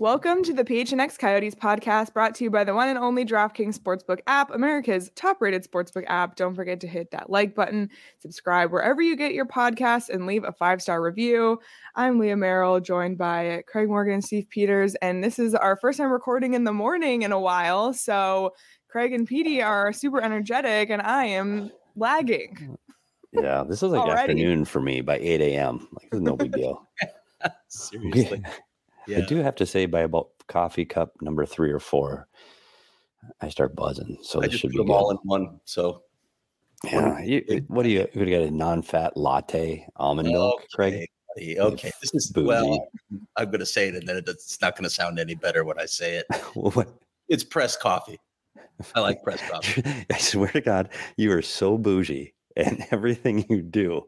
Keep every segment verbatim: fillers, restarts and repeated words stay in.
Welcome to the P H N X Coyotes podcast, brought to you by the one and only DraftKings Sportsbook app, America's top-rated sportsbook app. Don't forget to hit that like button, subscribe wherever you get your podcasts, and leave a five-star review. I'm Leah Merrill, joined by Craig Morgan and Steve Peters, and this is our first time recording in the morning in a while, so Craig and Petey are super energetic, and I am lagging. Yeah, this is like Already. afternoon for me by eight a.m. Like, it's no big deal. Seriously. Yeah. I do have to say, by about coffee cup number three or four, I start buzzing. So I this just should put be them good. all in one. So yeah, you, what do you? You got a non-fat latte almond milk, okay, Craig? buddy, Okay, this is Bougie. well. I'm going to say it, and then it's not going to sound any better when I say it. What? It's pressed coffee. I like pressed coffee. I swear to God, you are so bougie, and everything you do.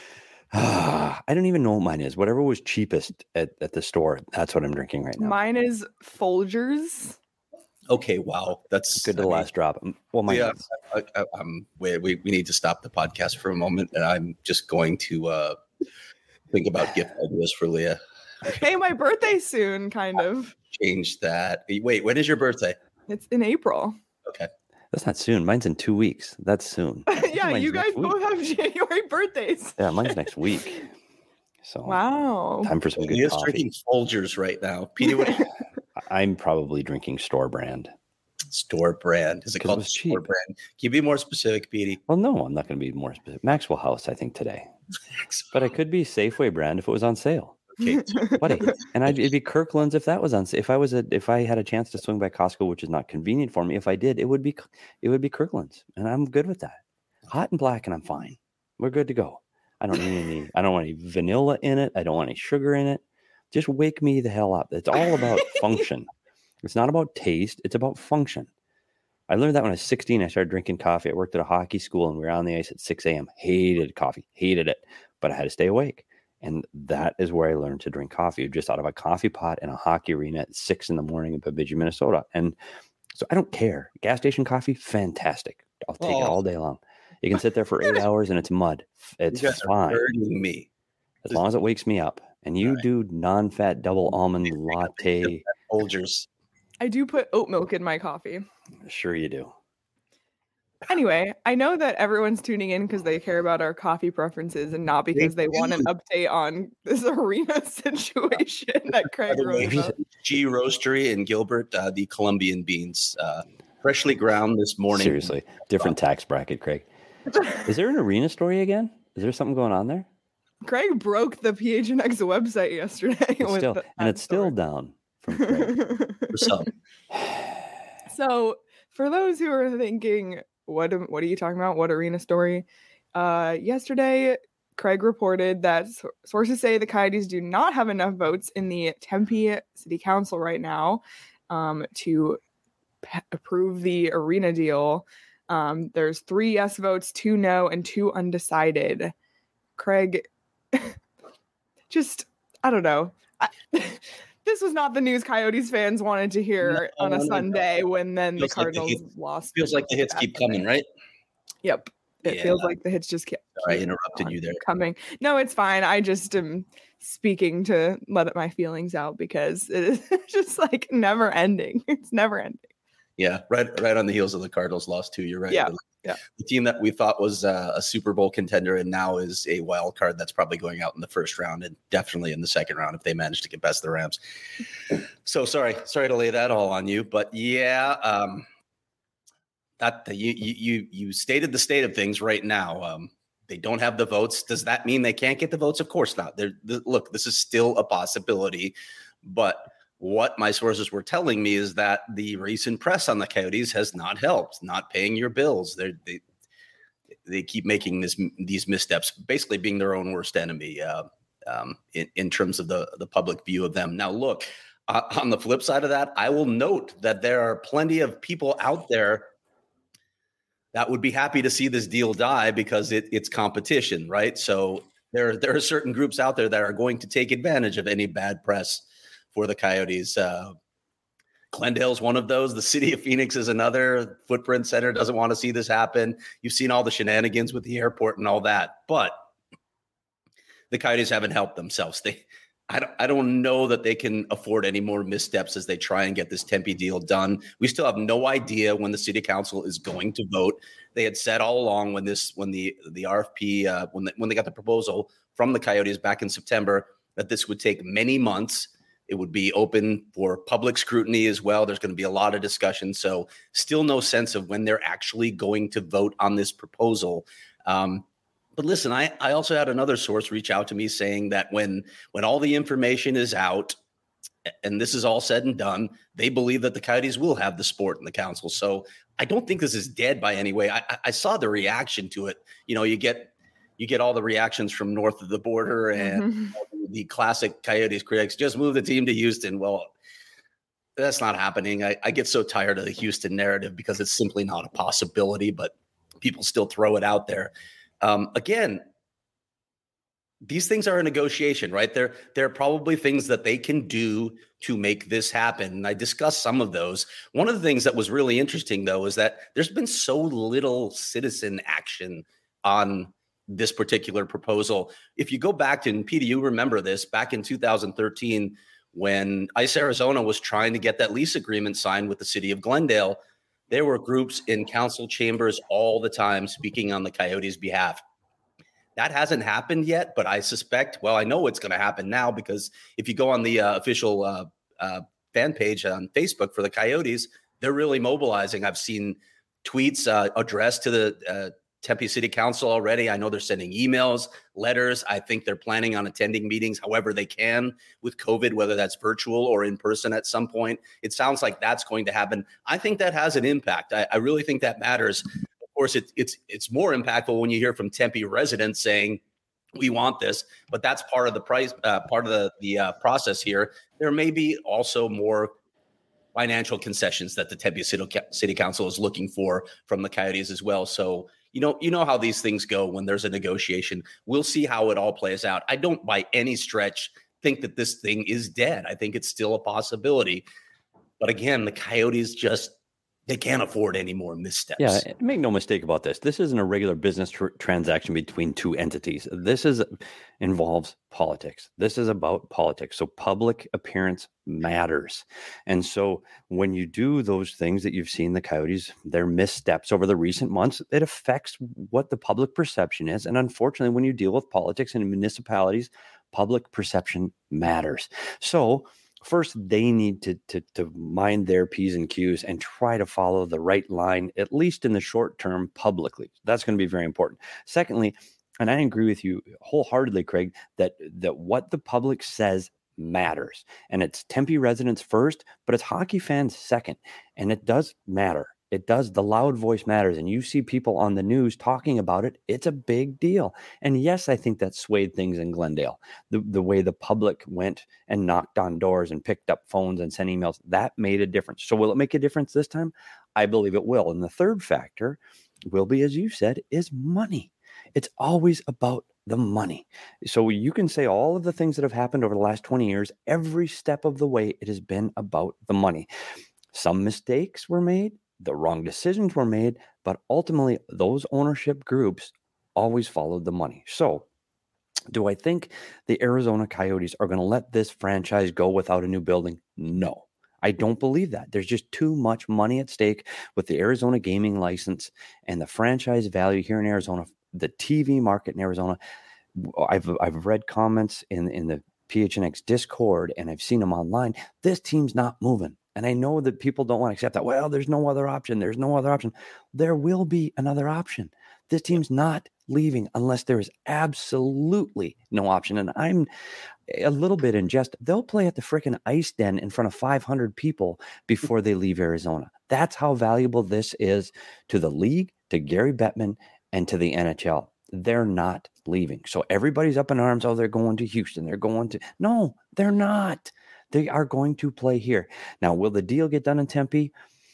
I don't even know what mine is. Whatever was cheapest at, at the store, that's what I'm drinking right now. Mine is Folgers. Okay, wow, that's Good to I the mean, last drop. Well, my yeah, I, I, I'm. We, we we need to stop the podcast for a moment, and I'm just going to uh, think about gift ideas for Leah. Hey, my birthday's soon, kind of. Change that. Wait, when is your birthday? It's in April. Okay. That's not soon. Mine's in two weeks. That's soon. Yeah, Mine's you guys next week. both have January birthdays. Yeah, mine's next week. So Wow. time for some good Leah's coffee. drinking Folgers right now. Peter, what I'm probably drinking store brand. store brand? Is it 'Cause it called was store cheap. brand? Can you be more specific, Petey? Well, no, I'm not going to be more specific. Maxwell House, I think today, but I could be Safeway brand if it was on sale, Okay. buddy. And I'd it'd be Kirkland's if that was on. If I was a, if I had a chance to swing by Costco, which is not convenient for me, if I did, it would be it would be Kirkland's, and I'm good with that. Hot and black, and I'm fine. We're good to go. I don't need any. I don't want any vanilla in it. I don't want any sugar in it. Just wake me the hell up. It's all about function. It's not about taste. It's about function. I learned that when I was sixteen. I started drinking coffee. I worked at a hockey school, and we were on the ice at six a.m. Hated coffee. Hated it. But I had to stay awake. And that is where I learned to drink coffee, just out of a coffee pot in a hockey arena at six in the morning in Bemidji, Minnesota. And so I don't care. Gas station coffee, fantastic. I'll take Oh. it all day long. You can sit there for eight hours and it's mud. It's You guys are fine. hurting me. As long as it wakes me up. And you Right. do non-fat double almond latte. Folgers. I do put oat milk in my coffee. Sure you do. Anyway, I know that everyone's tuning in because they care about our coffee preferences and not because they want an update on this arena situation that Craig By the way, wrote about. G Roastery in Gilbert, uh, the Colombian beans, uh, freshly ground this morning. Seriously. Different tax bracket, Craig. Is there an arena story again? Is there something going on there? Craig broke the P H N X website yesterday. It's with still, the- and that it's still story. down from Craig. For some. So, for those who are thinking, what am- what are you talking about? What arena story? Uh, yesterday, Craig reported that s- sources say the Coyotes do not have enough votes in the Tempe City Council right now um, to p- approve the arena deal. Um, there's three yes votes, two no, and two undecided. Craig, just I don't know. I, this was not the news Coyotes fans wanted to hear No, on a no, no. Sunday when then the Feels like the Cardinals hits- lost. Feels like the hits keep coming, right? Yep. It Yeah. feels like the hits just kept Sorry, I keep interrupted on you there. coming. No, it's fine. I just am speaking to let my feelings out because it is just like never ending. It's never ending. Yeah, right, right on the heels of the Cardinals lost too. You're right. Yeah, The- yeah. The team that we thought was uh, a Super Bowl contender and now is a wild card that's probably going out in the first round and definitely in the second round if they manage to get past the Rams. So sorry, sorry to lay that all on you, but yeah, um, that you you you you stated the state of things right now. Um, they don't have the votes. Does that mean they can't get the votes? Of course not. They're, the, look, this is still a possibility, but what my sources were telling me is that the recent press on the Coyotes has not helped, not paying your bills. They're, they they keep making this these missteps, basically being their own worst enemy uh, um, in, in terms of the, the public view of them. Now, look, uh, on the flip side of that, I will note that there are plenty of people out there that would be happy to see this deal die because it, it's competition, right? So there, there are certain groups out there that are going to take advantage of any bad press for the Coyotes. Uh, Glendale's one of those. The city of Phoenix is another. Footprint Center doesn't want to see this happen. You've seen all the shenanigans with the airport and all that, but the Coyotes haven't helped themselves. They I don't, I don't know that they can afford any more missteps as they try and get this Tempe deal done. We still have no idea when the city council is going to vote. They had said all along when this, when the the R F P, uh, when the, when they got the proposal from the Coyotes back in September, that this would take many months. It would be open for public scrutiny as well. There's going to be a lot of discussion. So still no sense of when they're actually going to vote on this proposal. Um, But listen, I, I also had another source reach out to me saying that when when all the information is out and this is all said and done, they believe that the Coyotes will have the sport in the council. So I don't think this is dead by any way. I, I saw the reaction to it. You know, you get you get all the reactions from north of the border and mm-hmm. the classic Coyotes critics, just move the team to Houston. Well, that's not happening. I, I get so tired of the Houston narrative because it's simply not a possibility, but people still throw it out there. Um, again, these things are a negotiation, right? There, there are probably things that they can do to make this happen. And I discussed some of those. One of the things that was really interesting, though, is that there's been so little citizen action on this particular proposal. If you go back to, and Peter, you remember this, back in two thousand thirteen, when ICE Arizona was trying to get that lease agreement signed with the city of Glendale, there were groups in council chambers all the time speaking on the Coyotes' behalf. That hasn't happened yet, but I suspect, well, I know it's going to happen now because if you go on the uh, official uh, uh, fan page on Facebook for the Coyotes, they're really mobilizing. I've seen tweets uh, addressed to the uh, Tempe City Council already. I know they're sending emails, letters. I think they're planning on attending meetings however they can with COVID, whether that's virtual or in person at some point. It sounds like that's going to happen. I think that has an impact. I, I really think that matters. Of course, it, it's it's more impactful when you hear from Tempe residents saying, we want this, but that's part of the price, uh, part of the, the uh, process here. There may be also more financial concessions that the Tempe City, City Council is looking for from the Coyotes as well. So, you know, you know how these things go when there's a negotiation. We'll see how it all plays out. I don't by any stretch think that this thing is dead. I think it's still a possibility. But again, the Coyotes just, they can't afford any more missteps. Yeah, make no mistake about this. This isn't a regular business tr- transaction between two entities. This is involves politics. This is about politics. So public appearance matters. And so when you do those things that you've seen the Coyotes, their missteps over the recent months, it affects what the public perception is. And unfortunately, when you deal with politics in municipalities, public perception matters. So first, they need to, to, to mind their P's and Q's and try to follow the right line, at least in the short term, publicly. That's going to be very important. Secondly, and I agree with you wholeheartedly, Craig, that, that what the public says matters. And it's Tempe residents first, but it's hockey fans second. And it does matter. It does. The loud voice matters. And you see people on the news talking about it. It's a big deal. And yes, I think that swayed things in Glendale. The, the way the public went and knocked on doors and picked up phones and sent emails, that made a difference. So will it make a difference this time? I believe it will. And the third factor will be, as you said, is money. It's always about the money. So you can say all of the things that have happened over the last twenty years, every step of the way, it has been about the money. Some mistakes were made. The wrong decisions were made, but ultimately those ownership groups always followed the money. So do I think the Arizona Coyotes are going to let this franchise go without a new building? No, I don't believe that. There's just too much money at stake with the Arizona gaming license and the franchise value here in Arizona, the T V market in Arizona. I've, I've read comments in, in the P H N X Discord and I've seen them online. This team's not moving. And I know that people don't want to accept that. Well, there's no other option. There's no other option. There will be another option. This team's not leaving unless there is absolutely no option. And I'm a little bit in jest. They'll play at the frickin' Ice Den in front of five hundred people before they leave Arizona. That's how valuable this is to the league, to Gary Bettman, and to the N H L. They're not leaving. So everybody's up in arms. Oh, they're going to Houston. They're going to... No, they're not. They are going to play here. Now, will the deal get done in Tempe?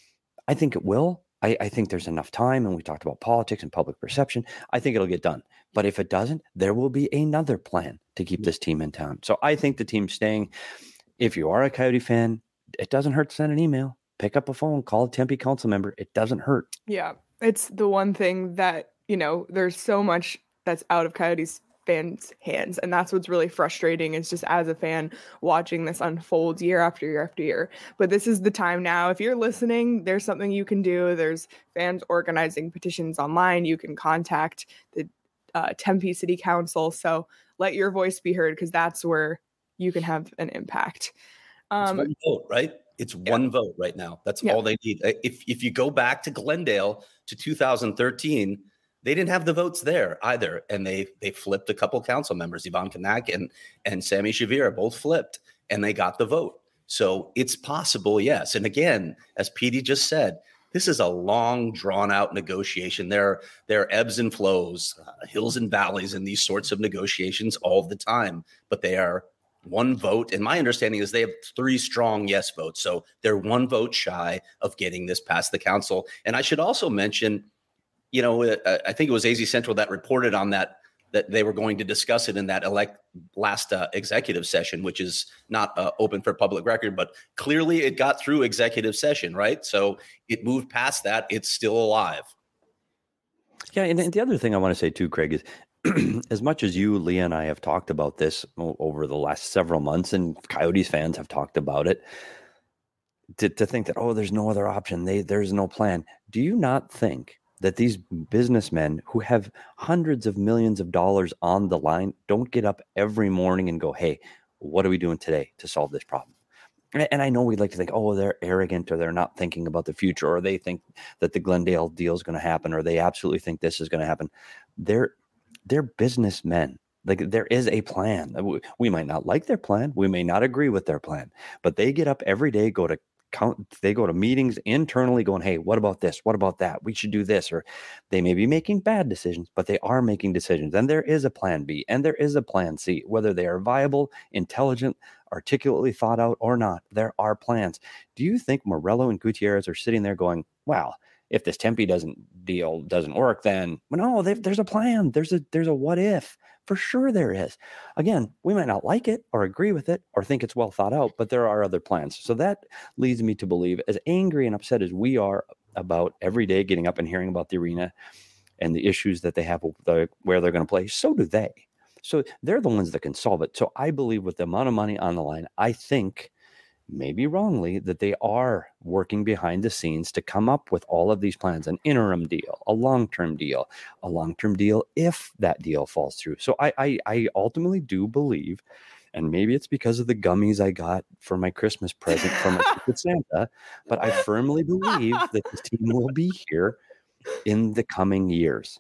I think it will. I, I think there's enough time, and we talked about politics and public perception. I think it'll get done. But if it doesn't, there will be another plan to keep this team in town. So I think the team's staying. If you are a Coyote fan, it doesn't hurt to send an email. Pick up a phone, call a Tempe council member. It doesn't hurt. Yeah, it's the one thing that, you know, there's so much that's out of Coyotes' fans' hands. And that's what's really frustrating, is just as a fan watching this unfold year after year after year. But this is the time now. If you're listening, there's something you can do. There's fans organizing petitions online. You can contact the uh, Tempe City Council. So let your voice be heard, because that's where you can have an impact. Um, it's one vote, right? It's yeah. one vote right now. That's yeah. all they need. If if you go back to Glendale to two thousand thirteen, they didn't have the votes there either, and they they flipped a couple council members, Yvonne Kanak and and Sammy Shavira, both flipped, and they got the vote. So it's possible, yes. And again, as Petey just said, this is a long, drawn-out negotiation. There, there are ebbs and flows, uh, hills and valleys in these sorts of negotiations all the time, but they are one vote. And my understanding is they have three strong yes votes. So they're one vote shy of getting this past the council. And I should also mention, you know, uh, I think it was A Z Central that reported on that, that they were going to discuss it in that elect last uh, executive session, which is not uh, open for public record, but clearly it got through executive session, right? So it moved past that. It's still alive. Yeah. And the other thing I want to say too, Craig, is as much as you, Leah, and I have talked about this over the last several months, and Coyotes fans have talked about it, to, to think that, oh, there's no other option, they, there's no plan. Do you not think that these businessmen who have hundreds of millions of dollars on the line don't get up every morning and go, hey, what are we doing today to solve this problem? And I know we'd like to think, oh, they're arrogant, or they're not thinking about the future, or they think that the Glendale deal is going to happen, or they absolutely think this is going to happen. They're They're businessmen. Like, there is a plan. We might not like their plan. We may not agree with their plan, but they get up every day, go to count, they go to meetings internally going, hey, what about this? What about that? We should do this. Or they may be making bad decisions, but they are making decisions. And there is a plan B and there is a plan C, whether they are viable, intelligent, articulately thought out or not. There are plans. Do you think Morello and Gutierrez are sitting there going, wow, if this Tempe doesn't deal doesn't work, then well, no, there's a plan. There's a there's a what if. For sure there is. Again, we might not like it or agree with it or think it's well thought out, but there are other plans. So that leads me to believe, as angry and upset as we are about every day getting up and hearing about the arena and the issues that they have with the, where they're going to play, so do they. So they're the ones that can solve it. So I believe with the amount of money on the line, I think, maybe wrongly, that they are working behind the scenes to come up with all of these plans, an interim deal, a long-term deal, a long-term deal if that deal falls through. So I, I, I ultimately do believe, and maybe it's because of the gummies I got for my Christmas present from my Secret Santa, but I firmly believe that this team will be here in the coming years.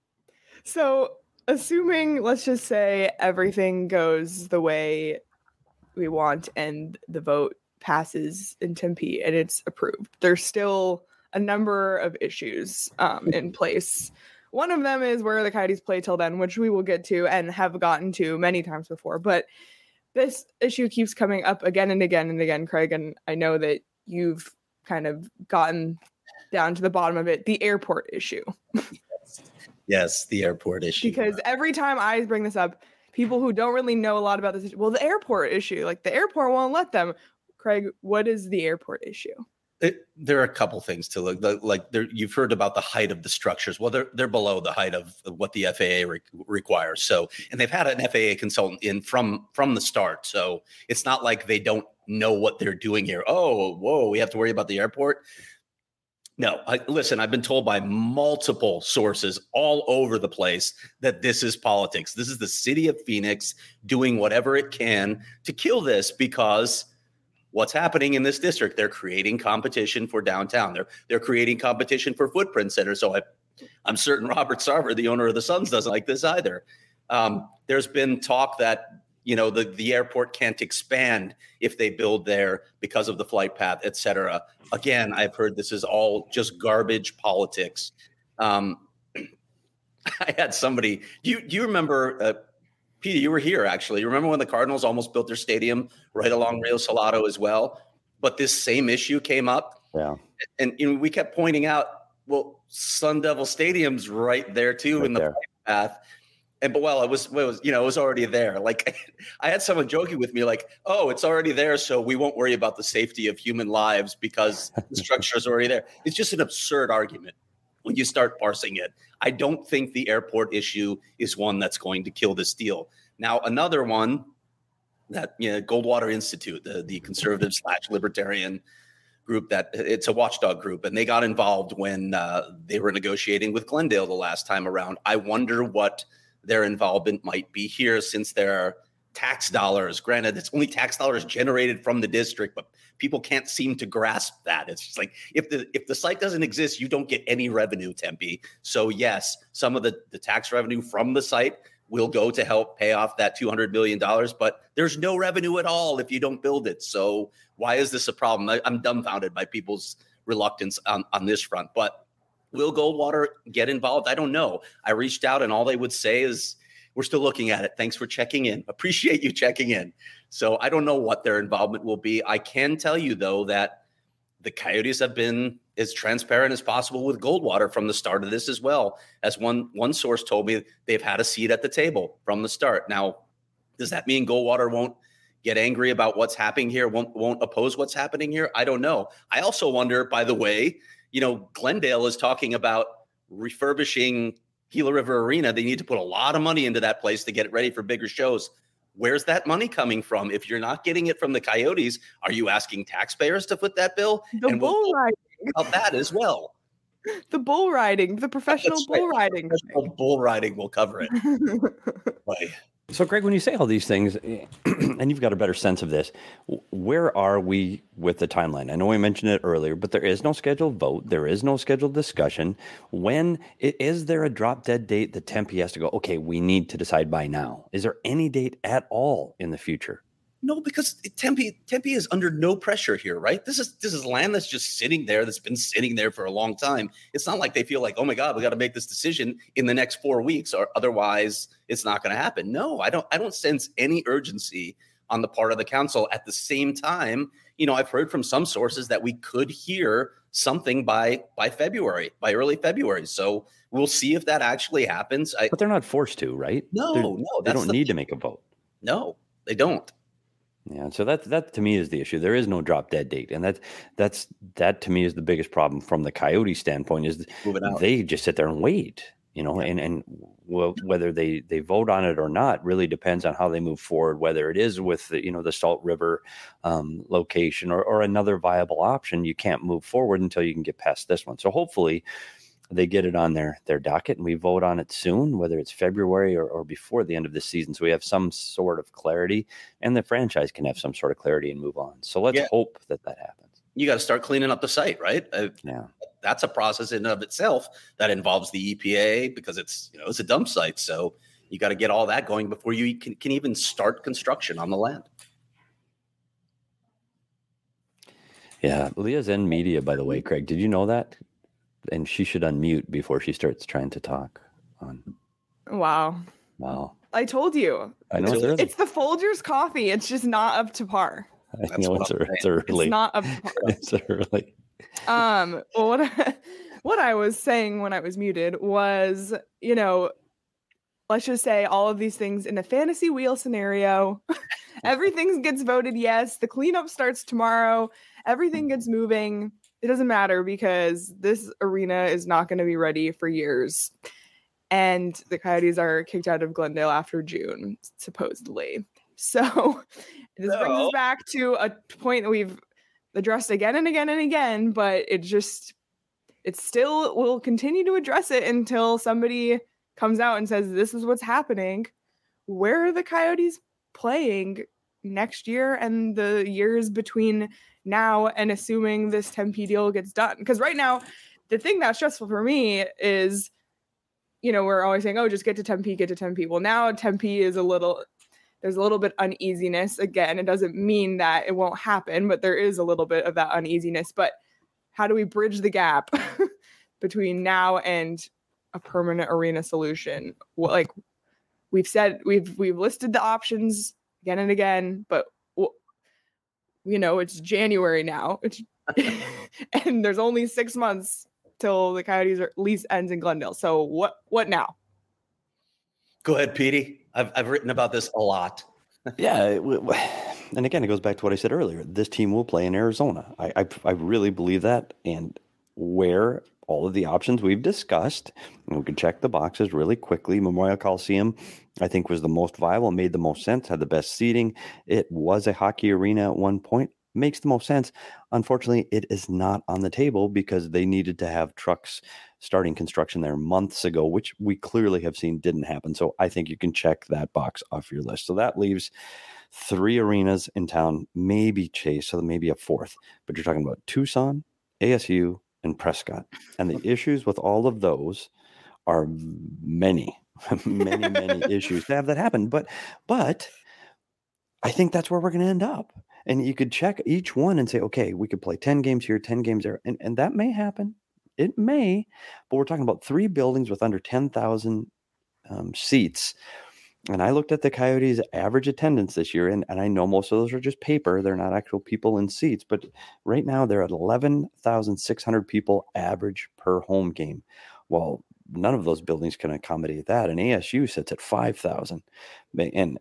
So assuming, let's just say, everything goes the way we want and the vote passes in Tempe and it's approved, there's still a number of issues um, in place. One of them is where the Coyotes play till then, which we will get to and have gotten to many times before. But this issue keeps coming up again and again and again, Craig, and I know that you've kind of gotten down to the bottom of it, the airport issue. Yes, the airport issue. Because every time I bring this up, people who don't really know a lot about this, well, the airport issue, like the airport won't let them. Craig, what is the airport issue? It, there are a couple things to look like. Like there, you've heard about the height of the structures. Well, they're they're below the height of what the F A A re- requires. So, and they've had an F A A consultant in from from the start. So it's not like they don't know what they're doing here. Oh, whoa, we have to worry about the airport. No, I, listen, I've been told by multiple sources all over the place that this is politics. This is the city of Phoenix doing whatever it can to kill this, because what's happening in this district, they're creating competition for downtown. They're they're creating competition for footprint centers. So I, I'm certain Robert Sarver, the owner of the Suns, doesn't like this either. Um, there's been talk that, you know, the, the airport can't expand if they build there because of the flight path, et cetera. Again, I've heard this is all just garbage politics. Um, I had somebody, do you, do you remember, uh, Peter, you were here, actually. You remember when the Cardinals almost built their stadium right along Rio Salado as well? But this same issue came up. Yeah. And, you know, we kept pointing out, well, Sun Devil Stadium's right there, too, right in the path. And, but, well, it was, it was, you know, it was already there. Like, I had someone joking with me, like, oh, it's already there, so we won't worry about the safety of human lives because the structure is already there. It's just an absurd argument. when you start parsing it. I don't think the airport issue is one that's going to kill this deal. Now, another one that, you know, Goldwater Institute, the, the conservative slash libertarian group, that it's a watchdog group, and they got involved when uh, they were negotiating with Glendale the last time around. I wonder what their involvement might be here, since their tax dollars, granted, it's only tax dollars generated from the district, but people can't seem to grasp that. It's just like, if the if the site doesn't exist, you don't get any revenue, Tempe. So yes, some of the, the tax revenue from the site will go to help pay off that two hundred million dollars, but there's no revenue at all if you don't build it. So why is this a problem? I, I'm dumbfounded by people's reluctance on, on this front. But will Goldwater get involved? I don't know. I reached out, and all they would say is, we're still looking at it. Thanks for checking in. Appreciate you checking in. So I don't know what their involvement will be. I can tell you, though, that the Coyotes have been as transparent as possible with Goldwater from the start of this as well. As one, one source told me, they've had a seat at the table from the start. Now, does that mean Goldwater won't get angry about what's happening here, won't, won't oppose what's happening here? I don't know. I also wonder, by the way, you know, Glendale is talking about refurbishing Gila River Arena. They need to put a lot of money into that place to get it ready for bigger shows. Where's that money coming from? If you're not getting it from the Coyotes, are you asking taxpayers to foot that bill? The and bull we'll riding. About that as well. The bull riding, the professional That's bull right. riding. Professional bull riding will cover it. Right. So, Greg, when you say all these things, and you've got a better sense of this, where are we with the timeline? I know we mentioned it earlier, but there is no scheduled vote. There is no scheduled discussion. When is there a drop dead date that Tempe has to go, okay, we need to decide by now? Is there any date at all in the future? No, because Tempe Tempe is under no pressure here, right? This is this is land that's just sitting there, that's been sitting there for a long time. It's not like they feel like, oh my God, we got to make this decision in the next four weeks, or otherwise it's not going to happen. No, I don't. I don't sense any urgency on the part of the council. At the same time, you know, I've heard from some sources that we could hear something by by February, by early February. So we'll see if that actually happens. I, but they're not forced to, right? No, they're, no, they don't the, need to make a vote. No, they don't. Yeah, so that that to me is the issue. There is no drop dead date, and that that's that to me is the biggest problem from the Coyote standpoint. Is they just sit there and wait, you know, and and well, whether they they vote on it or not really depends on how they move forward. Whether it is with the, you know, the Salt River um, location or or another viable option, you can't move forward until you can get past this one. So hopefully they get it on their their docket and we vote on it soon, whether it's February or, or before the end of the season. So we have some sort of clarity, and the franchise can have some sort of clarity and move on. So let's yeah. hope that that happens. You got to start cleaning up the site, right? Uh, yeah, that's a process in and of itself that involves the E P A, because it's, you know, it's a dump site. So you got to get all that going before you can, can even start construction on the land. Yeah, Leah's in media, by the way, Craig. Did you know that? And she should unmute before she starts trying to talk. On. Wow. Wow. I told you. I know. It's, it's, it's the Folgers coffee. It's just not up to par. I That's know it's, it's early. It's not up to par. It's early. Um, well, what I, what I was saying when I was muted was, you know, let's just say all of these things in a fantasy wheel scenario. Everything gets voted yes. The cleanup starts tomorrow. Everything gets moving. It doesn't matter because this arena is not going to be ready for years. And the Coyotes are kicked out of Glendale after June, supposedly. So this no. brings us back to a point that we've addressed again and again and again, but it just, it still will continue to address it until somebody comes out and says, this is what's happening. Where are the Coyotes playing next year and the years between now and assuming this Tempe deal gets done? Because right now, the thing that's stressful for me is, you know, we're always saying, oh, just get to Tempe, get to Tempe. Well, now Tempe is a little, there's a little bit uneasiness. Again, it doesn't mean that it won't happen, but there is a little bit of that uneasiness. But how do we bridge the gap between now and a permanent arena solution? Well, like we've said, we've we've listed the options again and again, but you know, it's January now. It's and there's only six months till the Coyotes' lease ends in Glendale. So what what now? Go ahead, Petey. I've I've written about this a lot. Yeah, and again, it goes back to what I said earlier. This team will play in Arizona. I I, I really believe that, and where all of the options we've discussed. And we can check the boxes really quickly. Memorial Coliseum, I think, was the most viable, made the most sense, had the best seating. It was a hockey arena at one point. Makes the most sense. Unfortunately, it is not on the table because they needed to have trucks starting construction there months ago, which we clearly have seen didn't happen. So I think you can check that box off your list. So that leaves three arenas in town, maybe Chase, so maybe a fourth. But you're talking about Tucson, A S U, and Prescott. And the issues with all of those are many, many, many issues to have that happen. But, but I think that's where we're going to end up. And you could check each one and say, okay, we could play ten games here, ten games there. And, and that may happen. It may. But we're talking about three buildings with under ten thousand um, seats. And I looked at the Coyotes' average attendance this year, and, and I know most of those are just paper. They're not actual people in seats. But right now, they're at eleven thousand six hundred people average per home game. Well, none of those buildings can accommodate that. And A S U sits at five thousand. And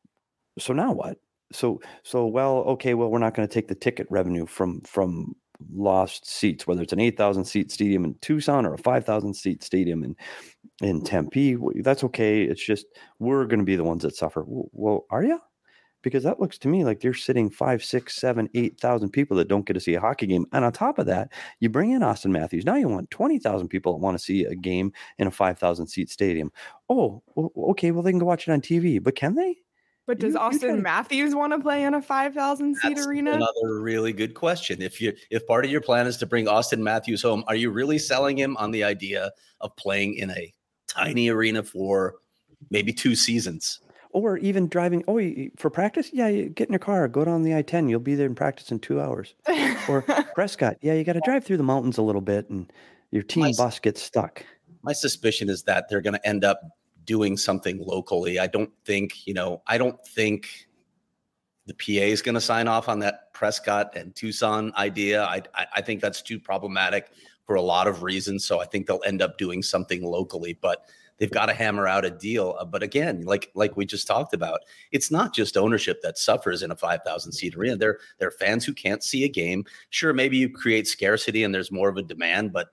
so now what? So, so well, okay, well, we're not going to take the ticket revenue from from lost seats, whether it's an eight thousand seat stadium in Tucson or a five thousand seat stadium in, in Tempe. That's okay. It's just we're going to be the ones that suffer. Well, are you? Because that looks to me like you're sitting five, six, seven, eight thousand people that don't get to see a hockey game. And on top of that, you bring in Austin Matthews. Now you want twenty thousand people that want to see a game in a five thousand seat stadium. Oh, okay. Well, they can go watch it on T V, but can they? But does You- you Austin try- Matthews want to play in a five thousand seat That's arena? another really good question. If you if part of your plan is to bring Austin Matthews home, are you really selling him on the idea of playing in a tiny arena for maybe two seasons? Or even driving, oh, you- for practice? Yeah, you get in your car, go down the I ten. You'll be there in practice in two hours. Or Prescott, yeah, you got to drive through the mountains a little bit and your team My- bus gets stuck. My suspicion is that they're going to end up doing something locally. I don't think, you know, I don't think the P A is going to sign off on that Prescott and Tucson idea. I, I, I think that's too problematic for a lot of reasons. So I think they'll end up doing something locally, but they've got to hammer out a deal. Uh, But again, like like we just talked about, it's not just ownership that suffers in a five thousand seat arena. There, there are fans who can't see a game. Sure, maybe you create scarcity and there's more of a demand, but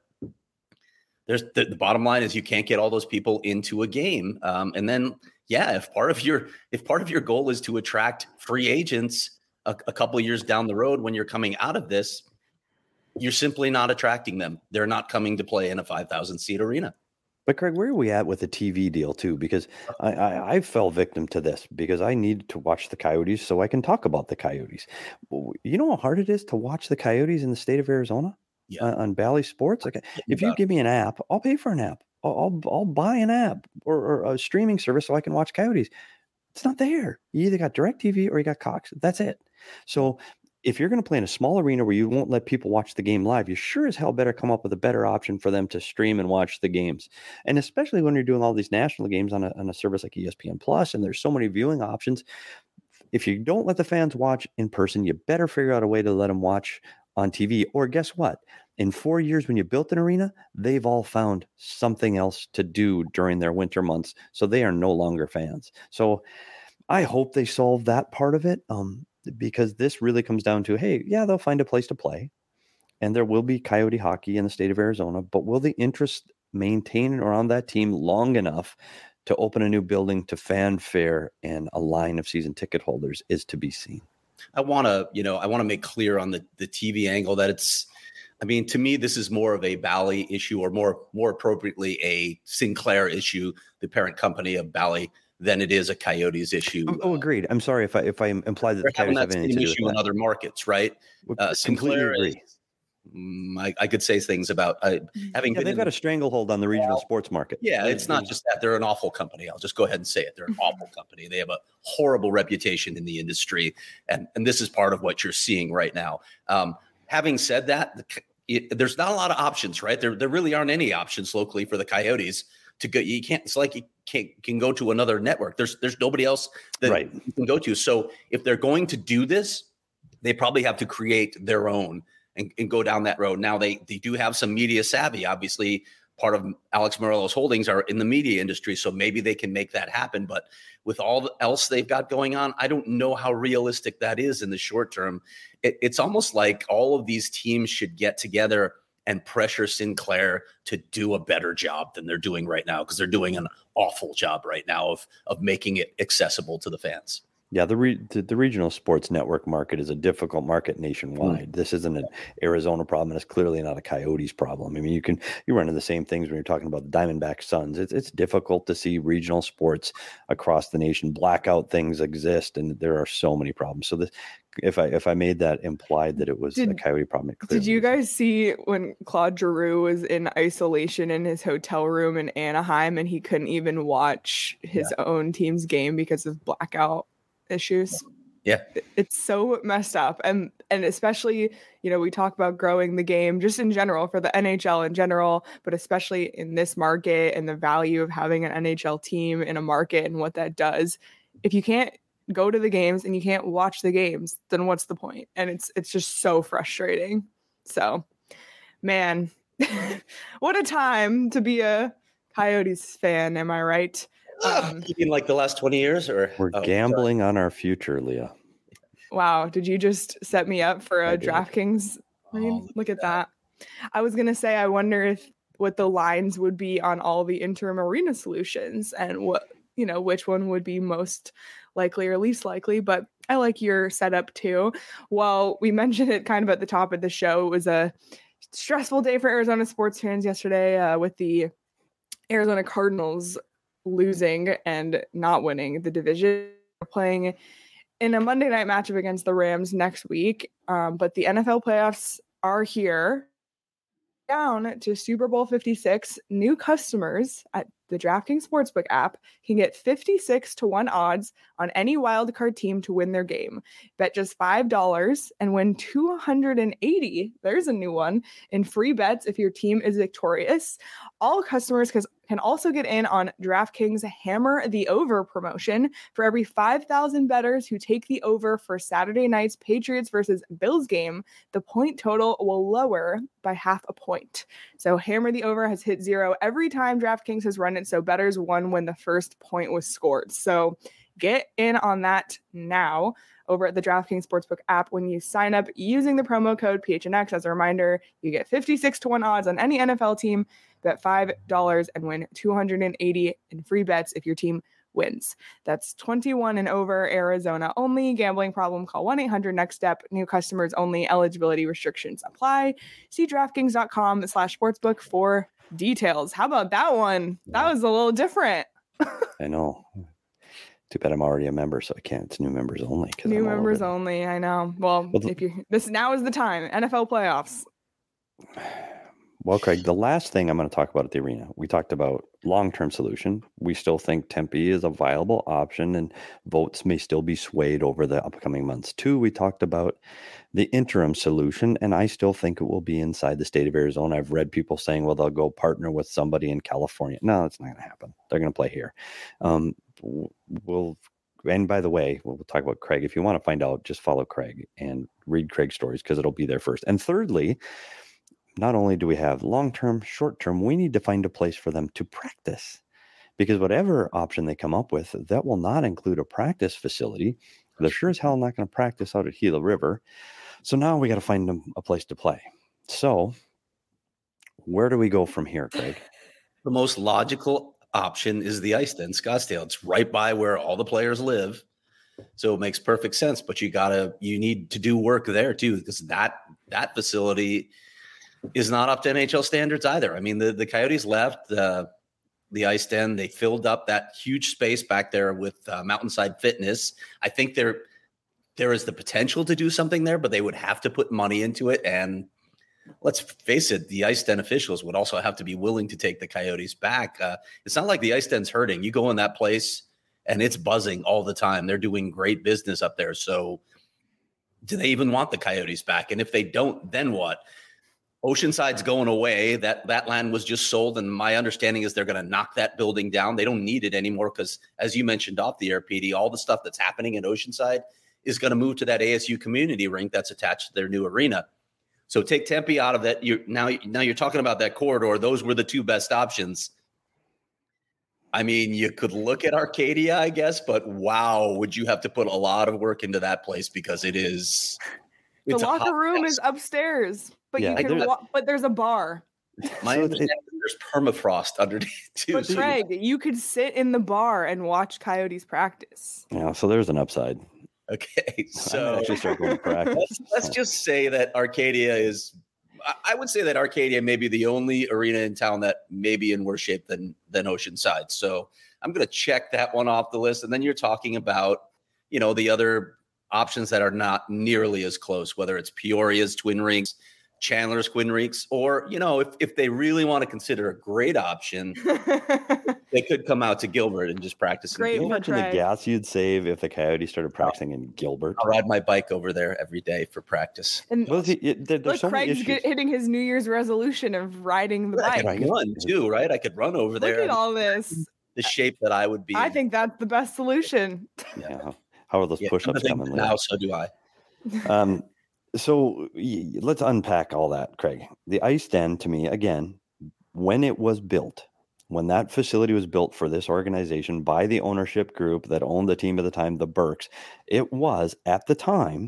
there's the, the bottom line is you can't get all those people into a game. Um, and then, yeah, if part of your if part of your goal is to attract free agents a, a couple of years down the road when you're coming out of this, you're simply not attracting them. They're not coming to play in a five thousand seat arena. But Craig, where are we at with the T V deal too? Because I, I, I fell victim to this because I needed to watch the Coyotes so I can talk about the Coyotes. You know how hard it is to watch the Coyotes in the state of Arizona? Yeah. Uh, on Bally Sports. Like, if you give me an app, I'll pay for an app. I'll I'll, I'll buy an app or, or a streaming service so I can watch Coyotes. It's not there. You either got DirecTV or you got Cox. That's it. So if you're going to play in a small arena where you won't let people watch the game live, you sure as hell better come up with a better option for them to stream and watch the games. And especially when you're doing all these national games on a, on a service like E S P N Plus, and there's so many viewing options. If you don't let the fans watch in person, you better figure out a way to let them watch on T V. Or guess what? In four years, when you built an arena, they've all found something else to do during their winter months. So they are no longer fans. So I hope they solve that part of it. Um, because this really comes down to, hey, yeah, they'll find a place to play and there will be Coyote hockey in the state of Arizona, but will the interest maintain around that team long enough to open a new building to fanfare and a line of season ticket holders is to be seen. I want to, you know, I want to make clear on the, the T V angle that it's, I mean, to me, this is more of a Bally issue, or more, more appropriately, a Sinclair issue, the parent company of Bally, than it is a Coyotes issue. Oh, oh agreed. I'm sorry if I if I implied that They're the Coyotes having have that anything same to do issue with in that. other markets, right? Uh, Completely Sinclair agree. is, mm, I, I could say things about uh, having Yeah, been they've in got the- a stranglehold on the regional sports market. Yeah, They- it's not they- just that. They're an awful company. I'll just go ahead and say it. They're an awful company. They have a horrible reputation in the industry. And, and this is part of what you're seeing right now. Um, having said that, the, it, there's not a lot of options, right? There, there really aren't any options locally for the Coyotes to go. You can't, it's like you can't, can go to another network. There's, there's nobody else that Right. you can go to. So if they're going to do this, they probably have to create their own and, and go down that road. Now they, they do have some media savvy, obviously. Part of Alex Morelos Holdings are in the media industry, so maybe they can make that happen. But with all else they've got going on, I don't know how realistic that is in the short term. It, it's almost like all of these teams should get together and pressure Sinclair to do a better job than they're doing right now, because they're doing an awful job right now of of making it accessible to the fans. Yeah, the, re- the the regional sports network market is a difficult market nationwide. Mm. This isn't an Arizona problem, and it's clearly not a Coyotes problem. I mean, you can you run into the same things when you're talking about the Diamondback Suns. It's it's difficult to see regional sports across the nation. Blackout things exist, and there are so many problems. So this, if I if I made that implied that it was did, a Coyote problem, it did you guys see when Claude Giroux was in isolation in his hotel room in Anaheim, and he couldn't even watch his yeah. own team's game because of blackout issues? Yeah, it's so messed up. And and especially, you know, we talk about growing the game just in general for the N H L in general, but especially in this market and the value of having an N H L team in a market and what that does. If you can't go to the games and you can't watch the games, then what's the point? And it's it's just so frustrating. So, man, what a time to be a Coyotes fan, am I right? Um, you mean like the last twenty years, or we're oh, gambling sorry. on our future, Leah? Wow, did you just set me up for a DraftKings? Oh, look, look at that. that. I was gonna say, I wonder if what the lines would be on all the interim arena solutions, and what you know, which one would be most likely or least likely. But I like your setup too. Well, we mentioned it kind of at the top of the show. It was a stressful day for Arizona sports fans yesterday uh, with the Arizona Cardinals losing and not winning the division. We're playing in a Monday night matchup against the Rams next week. Um, but the N F L playoffs are here. Down to Super Bowl fifty-six. New customers at the DraftKings Sportsbook app can get fifty-six to one odds on any wildcard team to win their game. Bet just five dollars and win two hundred eighty. There's a new one in free bets if your team is victorious. All customers can can also get in on DraftKings Hammer the Over promotion. For every five thousand bettors who take the over for Saturday night's Patriots versus Bills game, the point total will lower by half a point. So Hammer the Over has hit zero every time DraftKings has run it, so bettors won when the first point was scored. So get in on that now over at the DraftKings Sportsbook app when you sign up using the promo code P H N X. As a reminder, you get fifty-six to one odds on any N F L team. Bet five dollars and win two hundred eighty in free bets if your team wins. That's twenty-one and over, Arizona only. Gambling problem, call one eight hundred next step. New customers only. Eligibility restrictions apply. See DraftKings.com slash sportsbook for details. How about that one? That was a little different. I know. Too bad I'm already a member, so I can't. It's new members only. New I'm members only. I know. Well, well if you this now is the time. N F L playoffs. Well, Craig, the last thing I'm going to talk about at the arena, we talked about long-term solution. We still think Tempe is a viable option, and votes may still be swayed over the upcoming months. Two, we talked about the interim solution, and I still think it will be inside the state of Arizona. I've read people saying, well, they'll go partner with somebody in California. No, that's not going to happen. They're going to play here. Um, we'll, and by the way, we'll talk about Craig. If you want to find out, just follow Craig and read Craig's stories because it'll be there first. And thirdly, not only do we have long-term, short-term, we need to find a place for them to practice, because whatever option they come up with, that will not include a practice facility. They're sure as hell not going to practice out at Gila River. So now we got to find them a place to play. So where do we go from here, Craig? The most logical option is the ice den, Scottsdale. It's right by where all the players live. So it makes perfect sense, but you gotta, you need to do work there too, because that, that facility is not up to N H L standards either. I mean, the, the Coyotes left uh, the ice den. They filled up that huge space back there with uh, Mountainside Fitness. I think there, there is the potential to do something there, but they would have to put money into it. And let's face it, the ice den officials would also have to be willing to take the Coyotes back. Uh, it's not like the ice den's hurting. You go in that place and it's buzzing all the time. They're doing great business up there. So do they even want the Coyotes back? And if they don't, then what? Oceanside's going away. That that land was just sold, and my understanding is they're going to knock that building down. They don't need it anymore because, as you mentioned off the air, P D, all the stuff that's happening in Oceanside is going to move to that A S U community rink that's attached to their new arena. So take Tempe out of that. You're now now you're talking about that corridor. Those were the two best options. I mean, you could look at Arcadia, I guess, but wow, would you have to put a lot of work into that place because it is. The locker room is upstairs. but Yeah, you can. there's- Wa- but there's a bar. My So it- understanding is there's permafrost underneath too. But so- Craig, you could sit in the bar and watch Coyotes practice. Yeah, so there's an upside. okay, I might so actually start going to practice. let's, let's just say that Arcadia is. I- I would say that Arcadia may be the only arena in town that may be in worse shape than than Oceanside. So I'm going to check that one off the list. And then you're talking about, you know, the other options that are not nearly as close, whether it's Peoria's Twin Rinks, Chandler's Twin Rinks, or, you know, if, if they really want to consider a great option, they could come out to Gilbert and just practice. in Great Can you Gilbert. for imagine the Craig. gas you'd save if the Coyotes started practicing in Gilbert? I'll ride my bike over there every day for practice. And Well, see, it- there- there's look, so many Craig's issues. get, hitting his New Year's resolution of riding the I bike. could run too, right? I could run over Look there. at and all this. the shape that I would be. I in. think that's the best solution. Yeah. how- How are those Yeah, push-ups I'm coming? thinking Leah? now, so do I. Um, so y- y- let's unpack all that, Craig. The Ice Den, to me, again, when it was built, when that facility was built for this organization by the ownership group that owned the team at the time, the Burks, it was at the time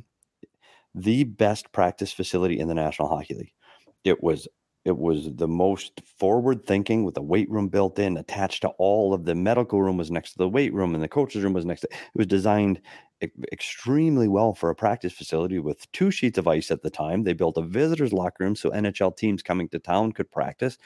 the best practice facility in the National Hockey League. It was it was the most forward thinking, with the weight room built in, attached to all of the medical room was next to the weight room, and the coach's room was next to it. It was designed e- extremely well for a practice facility with two sheets of ice at the time. They built a visitors locker room so N H L teams coming to town could practice.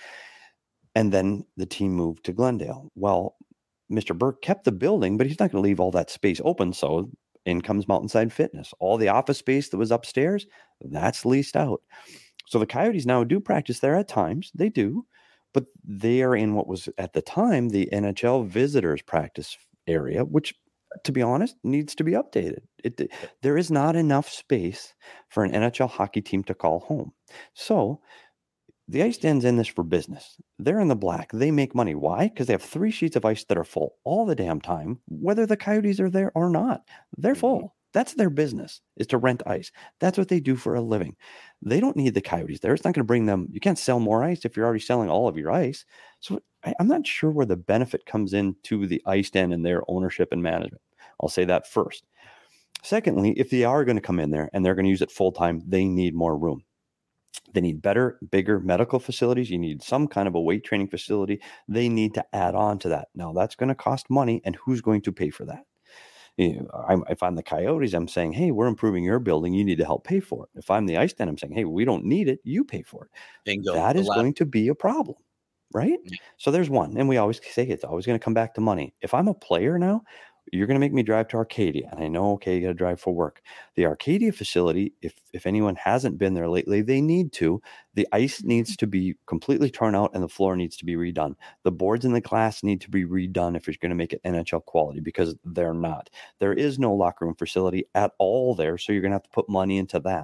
And then the team moved to Glendale. Well, Mister Burke kept the building, but he's not going to leave all that space open. So in comes Mountainside Fitness. All the office space that was upstairs, that's leased out. So the Coyotes now do practice there at times. They do, but they are in what was at the time the N H L visitors practice area, which, to be honest, needs to be updated. It, there is not enough space for an N H L hockey team to call home. So the Ice Den's in this for business. They're in the black. They make money. Why? Because they have three sheets of ice that are full all the damn time, whether the Coyotes are there or not. They're full. That's their business, is to rent ice. That's what they do for a living. They don't need the Coyotes there. It's not going to bring them. You can't sell more ice if you're already selling all of your ice. So I, I'm not sure where the benefit comes into the Ice Den and their ownership and management. I'll say that first. Secondly, if they are going to come in there and they're going to use it full time, they need more room. They need better, bigger medical facilities. You need some kind of a weight training facility. They need to add on to that. Now, that's going to cost money, and who's going to pay for that? You know, I'm, if I'm the Coyotes, I'm saying, hey, we're improving your building. You need to help pay for it. If I'm the Ice Den, I'm saying, hey, we don't need it. You pay for it. Bingo. That The is last- going to be a problem, right? Yeah. So there's one. And we always say it's always going to come back to money. If I'm a player now, you're going to make me drive to Arcadia. And I know, okay, you got to drive for work. The Arcadia facility, if if anyone hasn't been there lately, they need to. The ice needs to be completely torn out and the floor needs to be redone. The boards and the glass need to be redone if you're going to make it N H L quality, because they're not. There is no locker room facility at all there, so you're going to have to put money into that.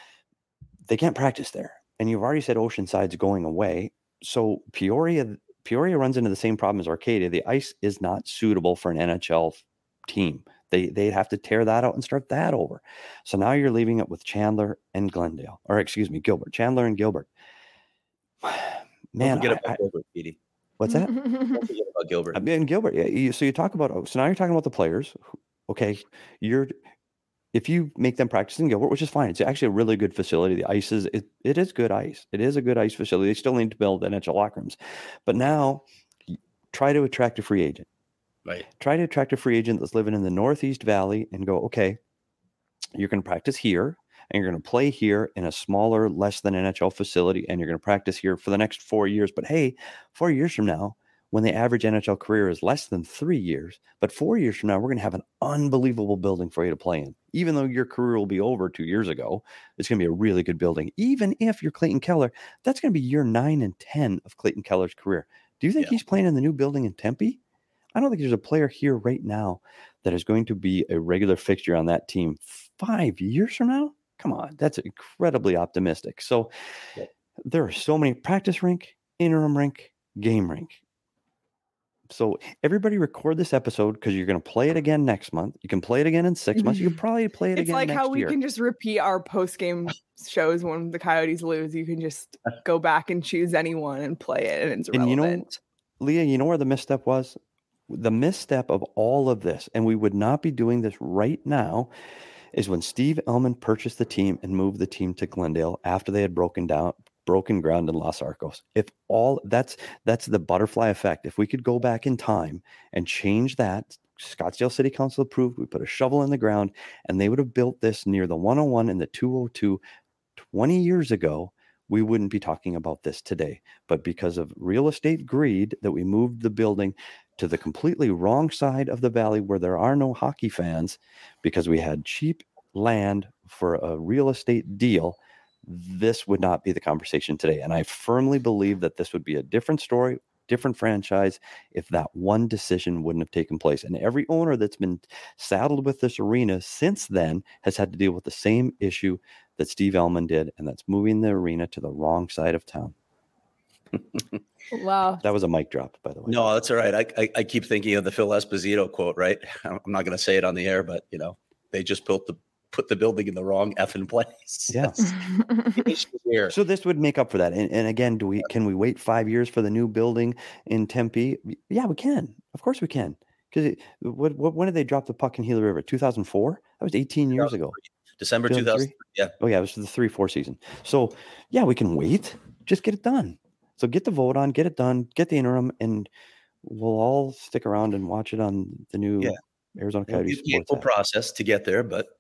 They can't practice there. And you've already said Oceanside's going away. So Peoria Peoria runs into the same problem as Arcadia. The ice is not suitable for an N H L team. They they'd have to tear that out and start that over. So now you're leaving it with Chandler and Glendale, or excuse me, Gilbert. Chandler and Gilbert. Man, Don't forget I- about I- Gilbert, Petey. what's that? Don't forget about Gilbert. I mean, Gilbert. Yeah. You, so you talk about. oh, So now you're talking about the players. Okay, you're. If you make them practice in Gilbert, which is fine, it's actually a really good facility. The ice is it, it is good ice. It is a good ice facility. They still need to build N H L locker rooms, but now try to attract a free agent. Right. Try to attract a free agent that's living in the Northeast Valley and go, okay, you're going to practice here and you're going to play here in a smaller, less than N H L facility, and you're going to practice here for the next four years. But hey, four years from now, when the average N H L career is less than three years, but four years from now, we're going to have an unbelievable building for you to play in. Even though your career will be over two years ago, it's going to be a really good building. Even if you're Clayton Keller, that's going to be year nine and ten of Clayton Keller's career. Do you think Yeah. he's playing in the new building in Tempe? I don't think there's a player here right now that is going to be a regular fixture on that team five years from now. Come on, that's incredibly optimistic. So Yeah. there are so many practice rink, interim rink, game rink. So everybody record this episode because you're going to play it again next month. You can play it again in six months. You can probably play it It's again like next how we year. can just repeat our post game shows when the Coyotes lose. You can just go back and choose anyone and play it, and it's And you know, relevant. Leah, you know where the misstep was? The misstep of all of this, and we would not be doing this right now is when Steve Ellman purchased the team and moved the team to Glendale after they had broken down, broken ground in Los Arcos. If all that's that's the butterfly effect. If we could go back in time and change that, Scottsdale City Council approved, we put a shovel in the ground, and they would have built this near the one oh one and the two oh two twenty years ago, we wouldn't be talking about this today. But because of real estate greed, that we moved the building to the completely wrong side of the valley where there are no hockey fans, because we had cheap land for a real estate deal, this would not be the conversation today. And I firmly believe that this would be a different story, different franchise, if that one decision wouldn't have taken place. And every owner that's been saddled with this arena since then has had to deal with the same issue that Steve Ellman did, and that's moving the arena to the wrong side of town. Wow. That was a mic drop, by the way. No, that's all right. I, I, I keep thinking of the Phil Esposito quote, right? I'm not going to say it on the air, but, you know, they just built the put the building in the wrong effing place. Yeah. Here. So this would make up for that. And, and again, do we can we wait five years for the new building in Tempe? Yeah, we can. Of course we can. Because what, what when did they drop the puck in Gila River? two thousand four? That was eighteen years ago. December two thousand three. Yeah. Oh yeah, it was the three four season. So yeah, we can wait. Just get it done. So get the vote on, get it done, get the interim, and we'll all stick around and watch it on the new yeah. Arizona Coyotes. It's a process to get there, but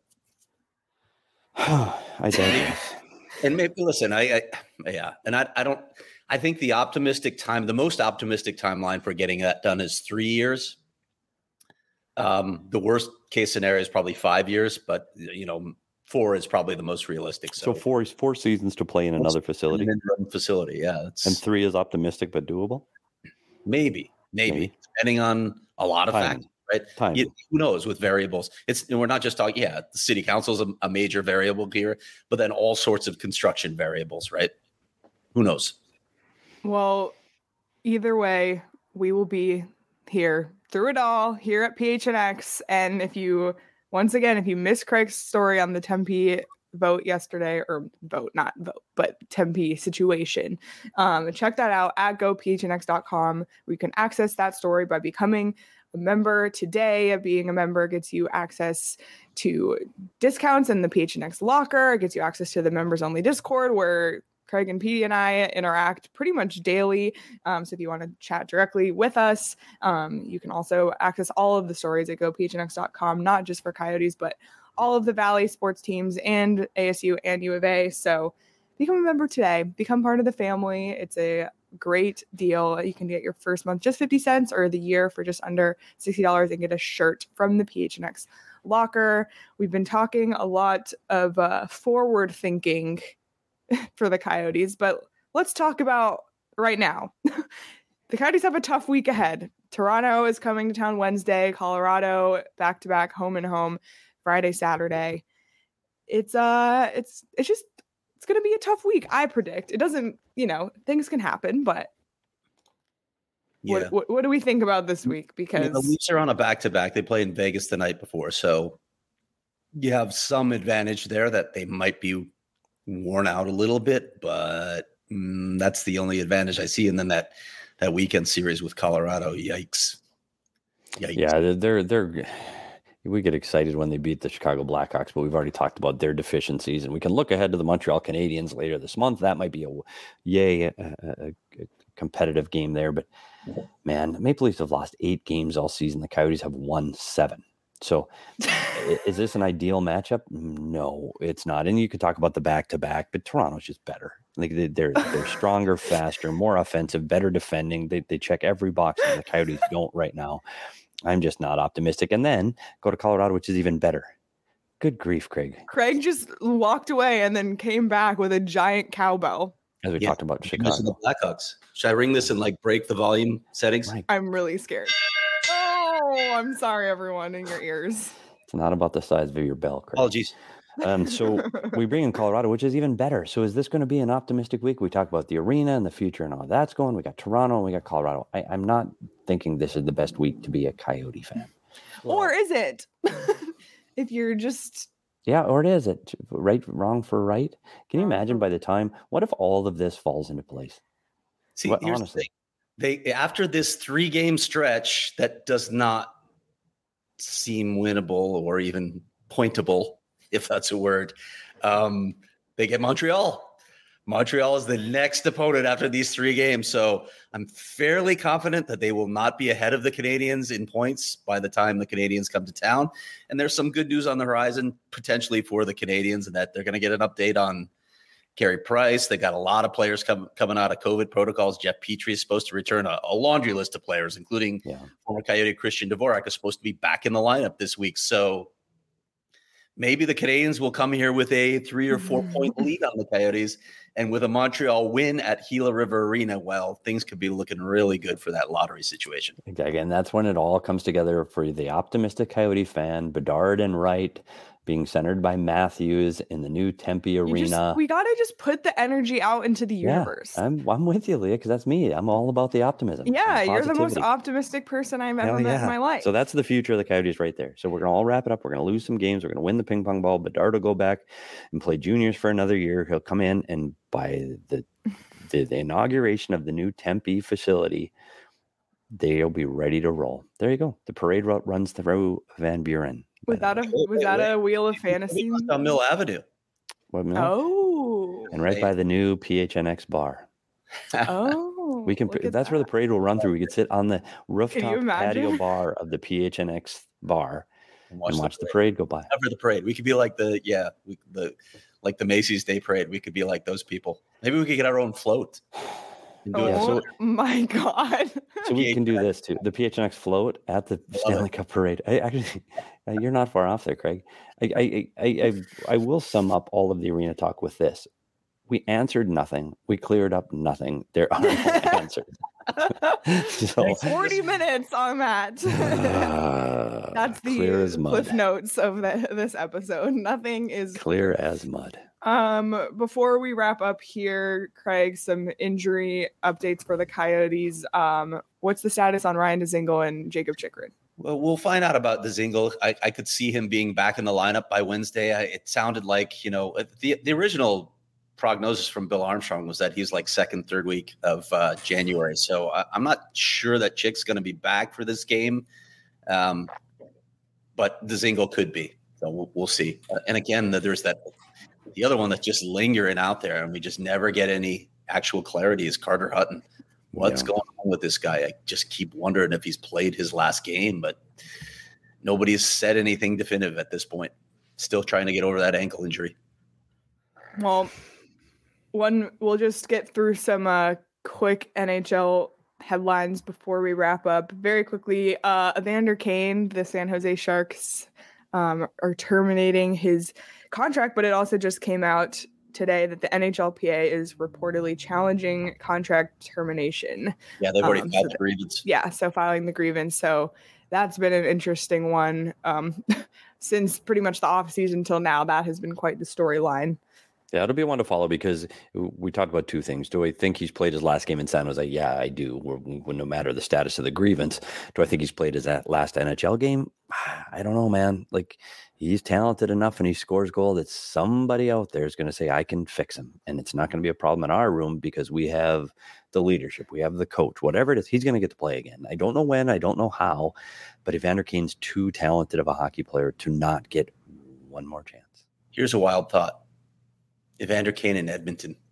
I digress. And maybe listen, I, I yeah, and I, I don't. I think the optimistic time, the most optimistic timeline for getting that done is three years. Um, the worst case scenario is probably five years, but you know, four is probably the most realistic. So, so four is four seasons to play in another facility. An interim facility, yeah. It's, and three is optimistic but doable. Maybe, maybe, maybe. depending on a lot of Time. factors. Right? You, who knows with variables? It's we're not just talking. Yeah, the city council is a, a major variable here, but then all sorts of construction variables, right? Who knows? Well, either way, we will be here through it all here at P H N X. And if you, once again, if you missed Craig's story on the Tempe vote yesterday, or vote, not vote, but Tempe situation, um, check that out at go p h n x dot com. We can access that story by becoming a member today. Being a member gets you access to discounts in the P H N X locker. It gets you access to the members only Discord where Craig and Petey and I interact pretty much daily. Um, so if you want to chat directly with us, um, you can also access all of the stories at go p h n x dot com, not just for Coyotes, but all of the Valley sports teams and A S U and U of A. So become a member today, become part of the family. It's a great deal. You can get your first month just fifty cents or the year for just under sixty dollars and get a shirt from the P H N X locker. We've been talking a lot of uh, forward thinking for the Coyotes, but let's talk about right now. The Coyotes have a tough week ahead. Toronto is coming to town Wednesday, Colorado back to back, home and home, Friday, Saturday. It's uh it's it's just it's going to be a tough week, I predict. It doesn't, you know, things can happen, but yeah. what, what, what do we think about this week? Because I mean, the Leafs are on a back-to-back. They played in Vegas the night before, so you have some advantage there that they might be worn out a little bit, but mm, that's the only advantage I see. And then that that weekend series with Colorado, yikes. Yikes. Yeah, they're they're we get excited when they beat the Chicago Blackhawks, but we've already talked about their deficiencies, and we can look ahead to the Montreal Canadiens later this month. That might be a yay a, a, a competitive game there, but man, the Maple Leafs have lost eight games all season. The Coyotes have won seven. So is this an ideal matchup? No, it's not. And you could talk about the back-to-back, but Toronto's just better. Like they, they're they're stronger, faster, more offensive, better defending. They they check every box that the Coyotes don't right now. I'm just not optimistic. And then go to Colorado, which is even better. Good grief, Craig. Craig just walked away and then came back with a giant cowbell. As we yeah. talked about Chicago. The Blackhawks. Should I ring this and like break the volume settings? Right. I'm really scared. Oh, I'm sorry, everyone in your ears. It's not about the size of your bell, Craig. Apologies. Um, so we bring in Colorado, which is even better. So is this going to be an optimistic week? We talk about the arena and the future and all that's going. We got Toronto and we got Colorado. I, I'm not thinking this is the best week to be a Coyote fan. Or is it? If you're just... Yeah, or it is it right, wrong for right? Can you imagine by the time, what if all of this falls into place? See, what, here's honestly. The thing. They, after this three-game stretch that does not seem winnable or even pointable, if that's a word. Um, they get Montreal. Montreal is the next opponent after these three games. So I'm fairly confident that they will not be ahead of the Canadiens in points by the time the Canadiens come to town. And there's some good news on the horizon potentially for the Canadiens, and that they're going to get an update on Carey Price. They got a lot of players come, coming out of COVID protocols. Jeff Petrie is supposed to return a, a laundry list of players, including yeah. former Coyote Christian Dvorak is supposed to be back in the lineup this week. So maybe the Canadiens will come here with a three or four point lead on the Coyotes, and with a Montreal win at Gila River Arena, well, things could be looking really good for that lottery situation. Exactly. And that's when it all comes together for the optimistic Coyote fan. Bedard and Wright being centered by Matthews in the new Tempe You Arena. just- we got to just put the energy out into the universe. Yeah, I'm, I'm with you, Leah, because that's me. I'm all about the optimism. Yeah, and you're the most positivity. optimistic person I've ever Hell met yeah. in my life. So that's the future of the Coyotes right there. So we're going to all wrap it up. We're going to lose some games. We're going to win the ping pong ball. Bedard will go back and play juniors for another year. He'll come in, and by the the, the inauguration of the new Tempe facility, they'll be ready to roll. There you go. The parade route runs through Van Buren. was that a was wait, that wait. a Wheel of Fantasy? On Mill Avenue. What, Mill? Oh, And right Hey. by the new P H N X bar. oh, We can. look at That's where the that. parade will run through. We could sit on the rooftop imagine? patio bar of the P H N X bar and watch, and watch the, the parade. parade go by. Cover the parade. We could be like the yeah, we, the like the Macy's Day Parade. We could be like those people. Maybe we could get our own float. And do Oh it. Yeah, so- my god! So we can do this too. The P H N X float at the Stanley Cup parade. I actually, uh, you're not far off there, Craig. I, I, I, I, I will sum up all of the arena talk with this. We answered nothing. We cleared up nothing. There are no answers. So, Forty minutes on that. uh, That's the clear as mud. cliff notes of the, this episode. Nothing is Clear as mud. Um, before we wrap up here, Craig, some injury updates for the Coyotes. Um, what's the status on Ryan Dzingel and Jacob Chikrin? Well, we'll find out about the Zingle. I, I could see him being back in the lineup by Wednesday. I, it sounded like, you know, the the original prognosis from Bill Armstrong was that he's like second, third week of uh, January. So I, I'm not sure that Chick's going to be back for this game, um, but the Zingle could be. So we'll, we'll see. Uh, and again, there's that the other one that's just lingering out there, and we just never get any actual clarity is Carter Hutton. What's Yeah. going on with this guy? I just keep wondering if he's played his last game, but nobody's said anything definitive at this point. Still trying to get over that ankle injury. Well, one we'll just get through some uh, quick N H L headlines before we wrap up. Very quickly, uh, Evander Kane, the San Jose Sharks, um, are terminating his contract, but it also just came out today that the N H L P A is reportedly challenging contract termination. Yeah, they've already Um, filed so the grievance. Yeah, so filing the grievance. So that's been an interesting one. Um, since pretty much the off season till now, that has been quite the storyline. Yeah, it'll be one to follow because we talked about two things. Do I think he's played his last game in San Jose? Yeah, I do. We're, we're, no matter the status of the grievance. Do I think he's played his last N H L game? I don't know, man. Like, he's talented enough and he scores goal that somebody out there is going to say, I can fix him. And it's not going to be a problem in our room because we have the leadership. We have the coach. Whatever it is, he's going to get to play again. I don't know when. I don't know how. But Evander Kane's too talented of a hockey player to not get one more chance. Here's a wild thought. Evander Kane in Edmonton. Can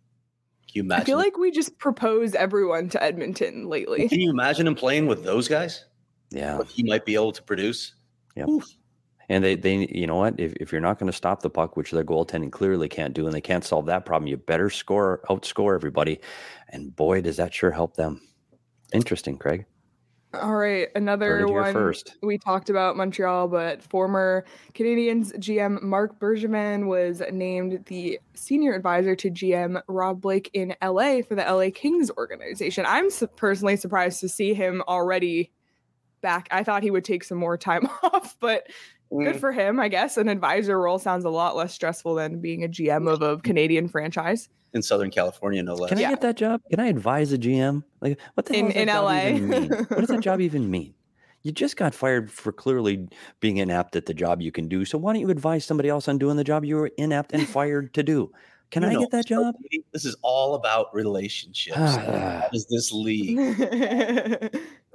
you imagine? I feel like we just propose everyone to Edmonton lately. Can you imagine him playing with those guys? Yeah. What he might be able to produce? Yep. Oof. And they, they, you know what? If, if you're not going to stop the puck, which their goaltending clearly can't do, and they can't solve that problem, you better score, outscore everybody. And boy, does that sure help them. Interesting, Craig. All right, another Heard it here one. first. We talked about Montreal, but former Canadiens G M Marc Bergevin was named the senior advisor to G M Rob Blake in L A for the L A Kings organization. I'm su- personally surprised to see him already back. I thought he would take some more time off, but good for him, I guess. An advisor role sounds a lot less stressful than being a G M of a Canadian franchise. In Southern California, no less. Can I Yeah. get that job? Can I advise a G M? Like, what the hell In- does that in job L A? even mean? What does that job even mean? You just got fired for clearly being inept at the job you can do. So why don't you advise somebody else on doing the job you were inept and fired to do? Can You I know, get that job? This is all about relationships. What is this league?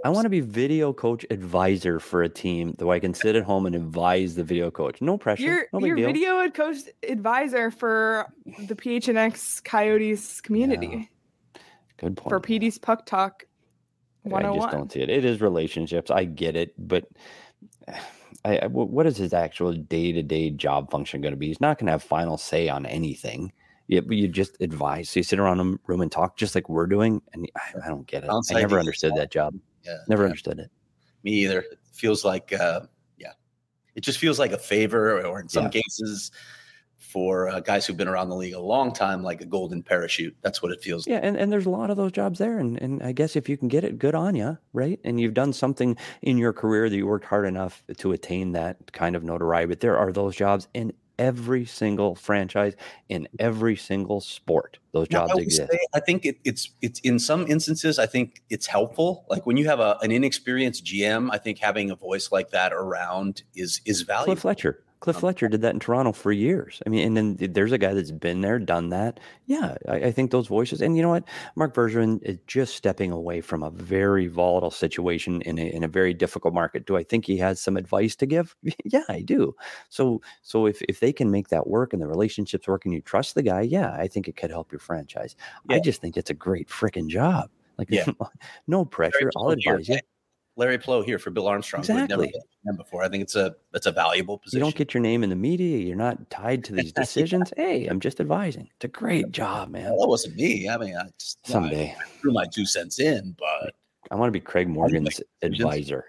I want to be video coach advisor for a team, though I can sit at home and advise the video coach. No pressure. You're no big your deal. video coach advisor for the P H N X Coyotes community. Yeah. Good point. For P D's Puck Talk one oh one. I just don't see it. It is relationships. I get it, but I, I, what is his actual day-to-day job function going to be? He's not going to have final say on anything. Yeah, but you just advise. So you sit around a room and talk just like we're doing, and I, I don't get it. Sounds I like never he's understood smart. that job. Yeah, Never yeah. understood it. Me either. It feels like, uh, yeah, it just feels like a favor, or in some Yeah. cases, for uh, guys who've been around the league a long time, like a golden parachute. That's what it feels. Yeah, and, and there's a lot of those jobs there, and and I guess if you can get it, good on you, right? And you've done something in your career that you worked hard enough to attain that kind of notoriety. But there are those jobs in every single franchise, in every single sport. Those Now, jobs I would exist. say, I think it, it's it's in some instances, I think it's helpful. Like when you have a, an inexperienced G M, I think having a voice like that around is is valuable. Cliff Fletcher. Cliff Um, Fletcher did that in Toronto for years. I mean, and then there's a guy that's been there, done that. Yeah, I, I think those voices. And you know what? Mark Bergevin is just stepping away from a very volatile situation in a, in a very difficult market. Do I think he has some advice to give? Yeah, I do. So, so if if they can make that work and the relationships work and you trust the guy, yeah, I think it could help your franchise. I Yeah. just think it's a great freaking job. Like, Yeah. no pressure. I'll Larry Plow advise you. here- Larry Plow here for Bill Armstrong. who had never Exactly. been before. I think it's a it's a valuable You position. don't get your name in the media. You're not tied to these decisions. Hey, I'm just advising. It's a great job, man. Well, that wasn't me. I mean, I just you know, I Someday. threw my two cents in, but I want to be Craig Morgan's decisions. advisor.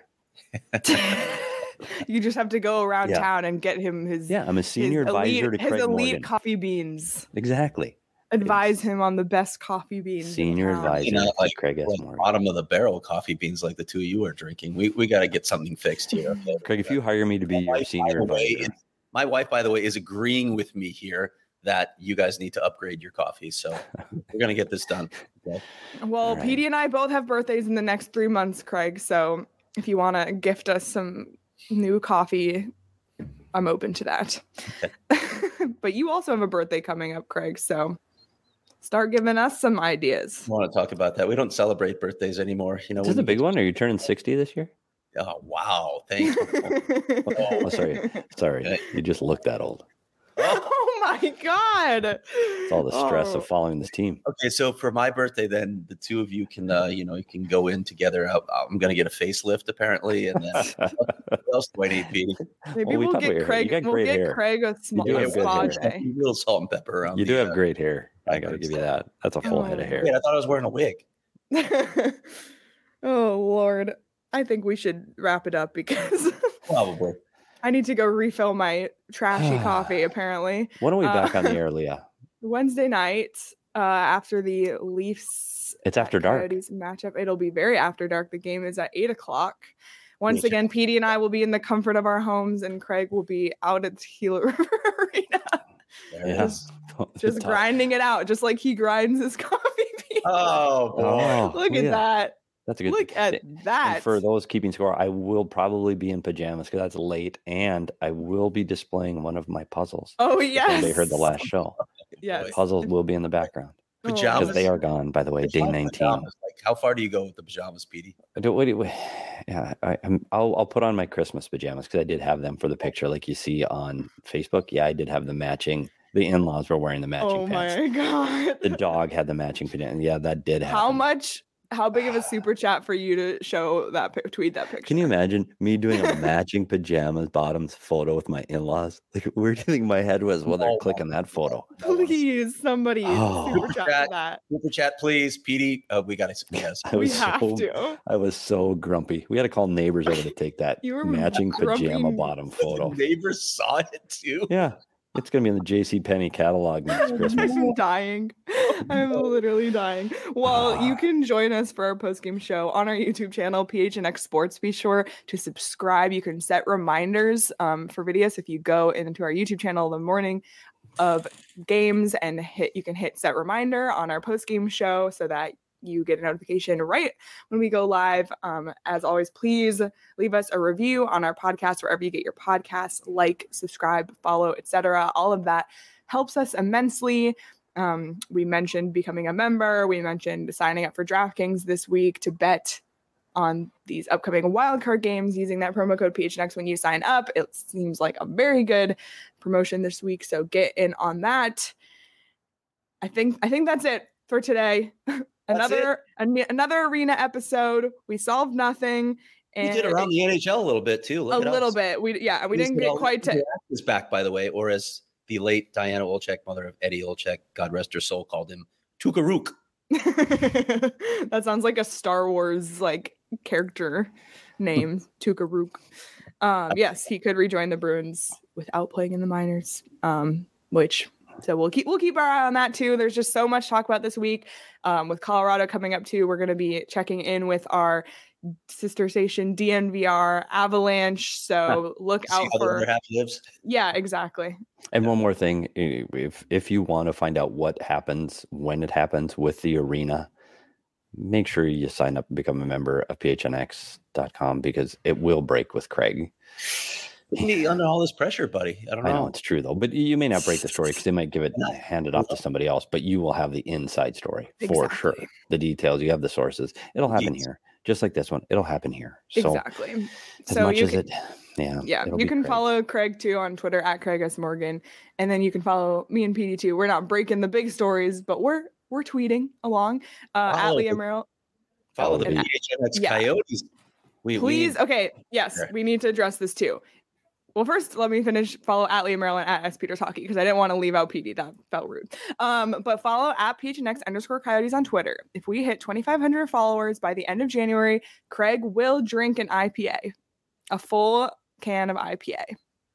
You just have to go around Yeah. town and get him his Yeah, I'm a his senior advisor elite, to his Craig elite Morgan. coffee beans. Exactly. Advise him on the best coffee beans. in Senior town. advisor You know, to like- Craig S. like Morgan. bottom of the barrel coffee beans like the two of you are drinking. We we got to get something fixed here. Okay? Craig, if you hire me to be My your wife, by senior the way, advisor, is- my wife, by the way, is agreeing with me here that you guys need to upgrade your coffee. So we're gonna get this done. Okay? Well, All right. Petey and I both have birthdays in the next three months, Craig. So if you want to gift us some new coffee, I'm open to that. But you also have a birthday coming up, Craig. So start giving us some ideas. I want to talk about that. We don't celebrate birthdays anymore. You know, is this when a we big get- one? Are you turning sixty this year? Oh wow! Thank you. Oh, sorry. Sorry. Okay. You just look that old. Oh my God. It's all the stress Oh. of following this team. Okay, so for my birthday, then the two of you can, uh, you know, you can go in together. I- I'm going to get a facelift apparently, and then what else do I need, Petey? Maybe Well, we we'll talked about get your hair. Craig. You got We'll great get hair. Craig a small do have good spa hair. day. A little salt and pepper around. You do the, have uh, great hair. I got to give you that. That's a full head of Oh. hair. Wait, I thought I was wearing a wig. Oh Lord. I think we should wrap it up because Probably. I need to go refill my trashy coffee apparently. When are we Uh, back on the air, Leah? Wednesday night, uh, after the Leafs It's after dark. Coyotes matchup, it'll be very after dark. The game is at eight o'clock. Once Me too. again, Petey and I will be in the comfort of our homes, and Craig will be out at the Gila River Arena, There it Yeah. is. just Tough. grinding it out, just like he grinds his coffee beans. Oh, boy. Oh, Look yeah. at that! That's a good Look at And that! for those keeping score, I will probably be in pajamas because that's late, and I will be displaying one of my puzzles. Oh If yes, anybody heard the last show, yes. the puzzles will be in the background Oh, Pajamas. because they are gone. By the way, day Pajamas, nineteen. pajamas. Like, how far do you go with the pajamas, Petey? I don't, what do you- yeah, I, I'm, I'll I'll put on my Christmas pajamas because I did have them for the picture, like you see on Facebook. Yeah, I did have the matching. The in-laws were wearing the matching Oh pants. my god! The dog had the matching pajamas. Yeah, that did happen. How much? How big of a super chat for you to show that pic- tweet that picture? Can you imagine me doing a matching pajamas bottoms photo with my in-laws? Like, where do you think my head was when they're Oh, clicking that photo? Please, somebody Oh. super chat Chat. for that. Super chat, please, Petey. Uh, we got to. Yes. I We was have so to. I was so grumpy. We had to call neighbors over to take that You were matching pajama grumpy. bottom The photo. neighbors saw it too. Yeah, it's gonna be in the J C Penney catalog next Christmas. I'm dying. I'm literally dying. Well, you can join us for our post-game show on our YouTube channel, P H N X Sports. Be sure to subscribe. You can set reminders um, for videos if you go into our YouTube channel in the morning of games and hit. You can hit set reminder on our post-game show so that you get a notification right when we go live. Um, as always, please leave us a review on our podcast wherever you get your podcasts. Like, subscribe, follow, et cetera. All of that helps us immensely. Um, we mentioned becoming a member. We mentioned signing up for DraftKings this week to bet on these upcoming wildcard games using that promo code P H N X when you sign up. It seems like a very good promotion this week, so get in on that. I think I think that's it for today. another an- another arena episode. We solved nothing. We And did around the N H L a little bit too. Look a at little us. bit. We yeah, we Please didn't get get all- quite to is back, by the way, or as the late Diana Olczyk, mother of Eddie Olczyk, God rest her soul, called him, Tukarook. That sounds like a Star Wars like character name, Tukarook. Um, yes, he could rejoin the Bruins without playing in the minors. Um, which so we'll keep we'll keep our eye on that too. There's just so much to talk about this week. Um, with Colorado coming up too, we're going to be checking in with our sister station D N V R Avalanche. So look See out how the for other half lives. yeah, exactly. And one more thing, if if you want to find out what happens when it happens with the arena, make sure you sign up and become a member of P H N X dot com because it will break with Craig. Me under all this pressure, buddy. I don't know. I know it's true though, but you may not break the story because they might give it hand it off to somebody else, but you will have the inside story for Exactly. sure. The details, you have the sources. It'll happen Yes. here, just like this one. It'll happen here. So Exactly. as So much you as can, it, yeah, yeah, it'll you be can Craig. follow Craig too on Twitter at Craig S Morgan, and then you can follow me and P D too. We're not breaking the big stories, but we're we're tweeting along uh, at Follow Leah the- Merrill. Follow the And- P H N X yeah. Coyotes. We, Please, we, okay, yes, Sure. we need to address this too. Well, first, let me finish. Follow at Leah Merrill and at S Peters Hockey because I didn't want to leave out P D. That felt rude. Um, but follow at P H N X underscore Coyotes on Twitter. If we hit twenty-five hundred followers by the end of January, Craig will drink an I P A, a full can of I P A.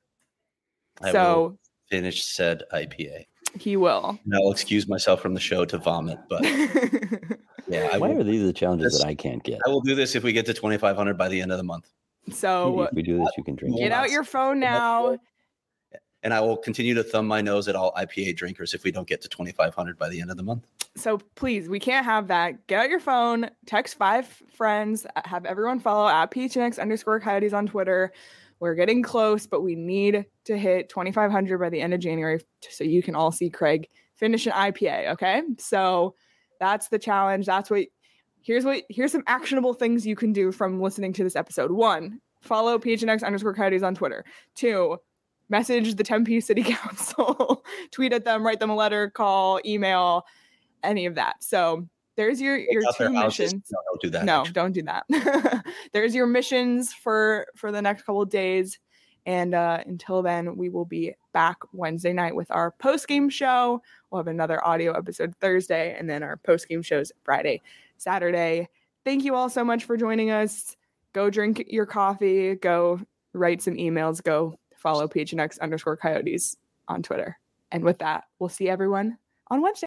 I So will finish said I P A. he will. And I'll excuse myself from the show to vomit, but yeah, I Why will, are these the challenges This- that I can't get? I will do this if we get to twenty-five hundred by the end of the month. So if we do this, you can drink. get it. out your phone now. And I will continue to thumb my nose at all I P A drinkers if we don't get to twenty-five hundred by the end of the month. So please, we can't have that. Get out your phone, text five friends, have everyone follow at P H N X underscore Coyotes on Twitter. We're getting close, but we need to hit twenty-five hundred by the end of January so you can all see Craig finish an I P A. Okay. So that's the challenge. That's what, here's what, here's some actionable things you can do from listening to this episode. One, follow P H N X underscore Coyotes on Twitter. Two, message the Tempe City Council, tweet at them, write them a letter, call, email, any of that. So there's your your Out their two houses. missions. No, don't do that. No, actually. don't do that. There's your missions for for the next couple of days. And uh, until then, we will be back Wednesday night with our post game show. We'll have another audio episode Thursday, and then our post game shows Friday, Saturday. Thank you all so much for joining us. Go drink your coffee. Go write some emails. Go follow P H N X underscore Coyotes on Twitter. And with that, we'll see everyone on Wednesday.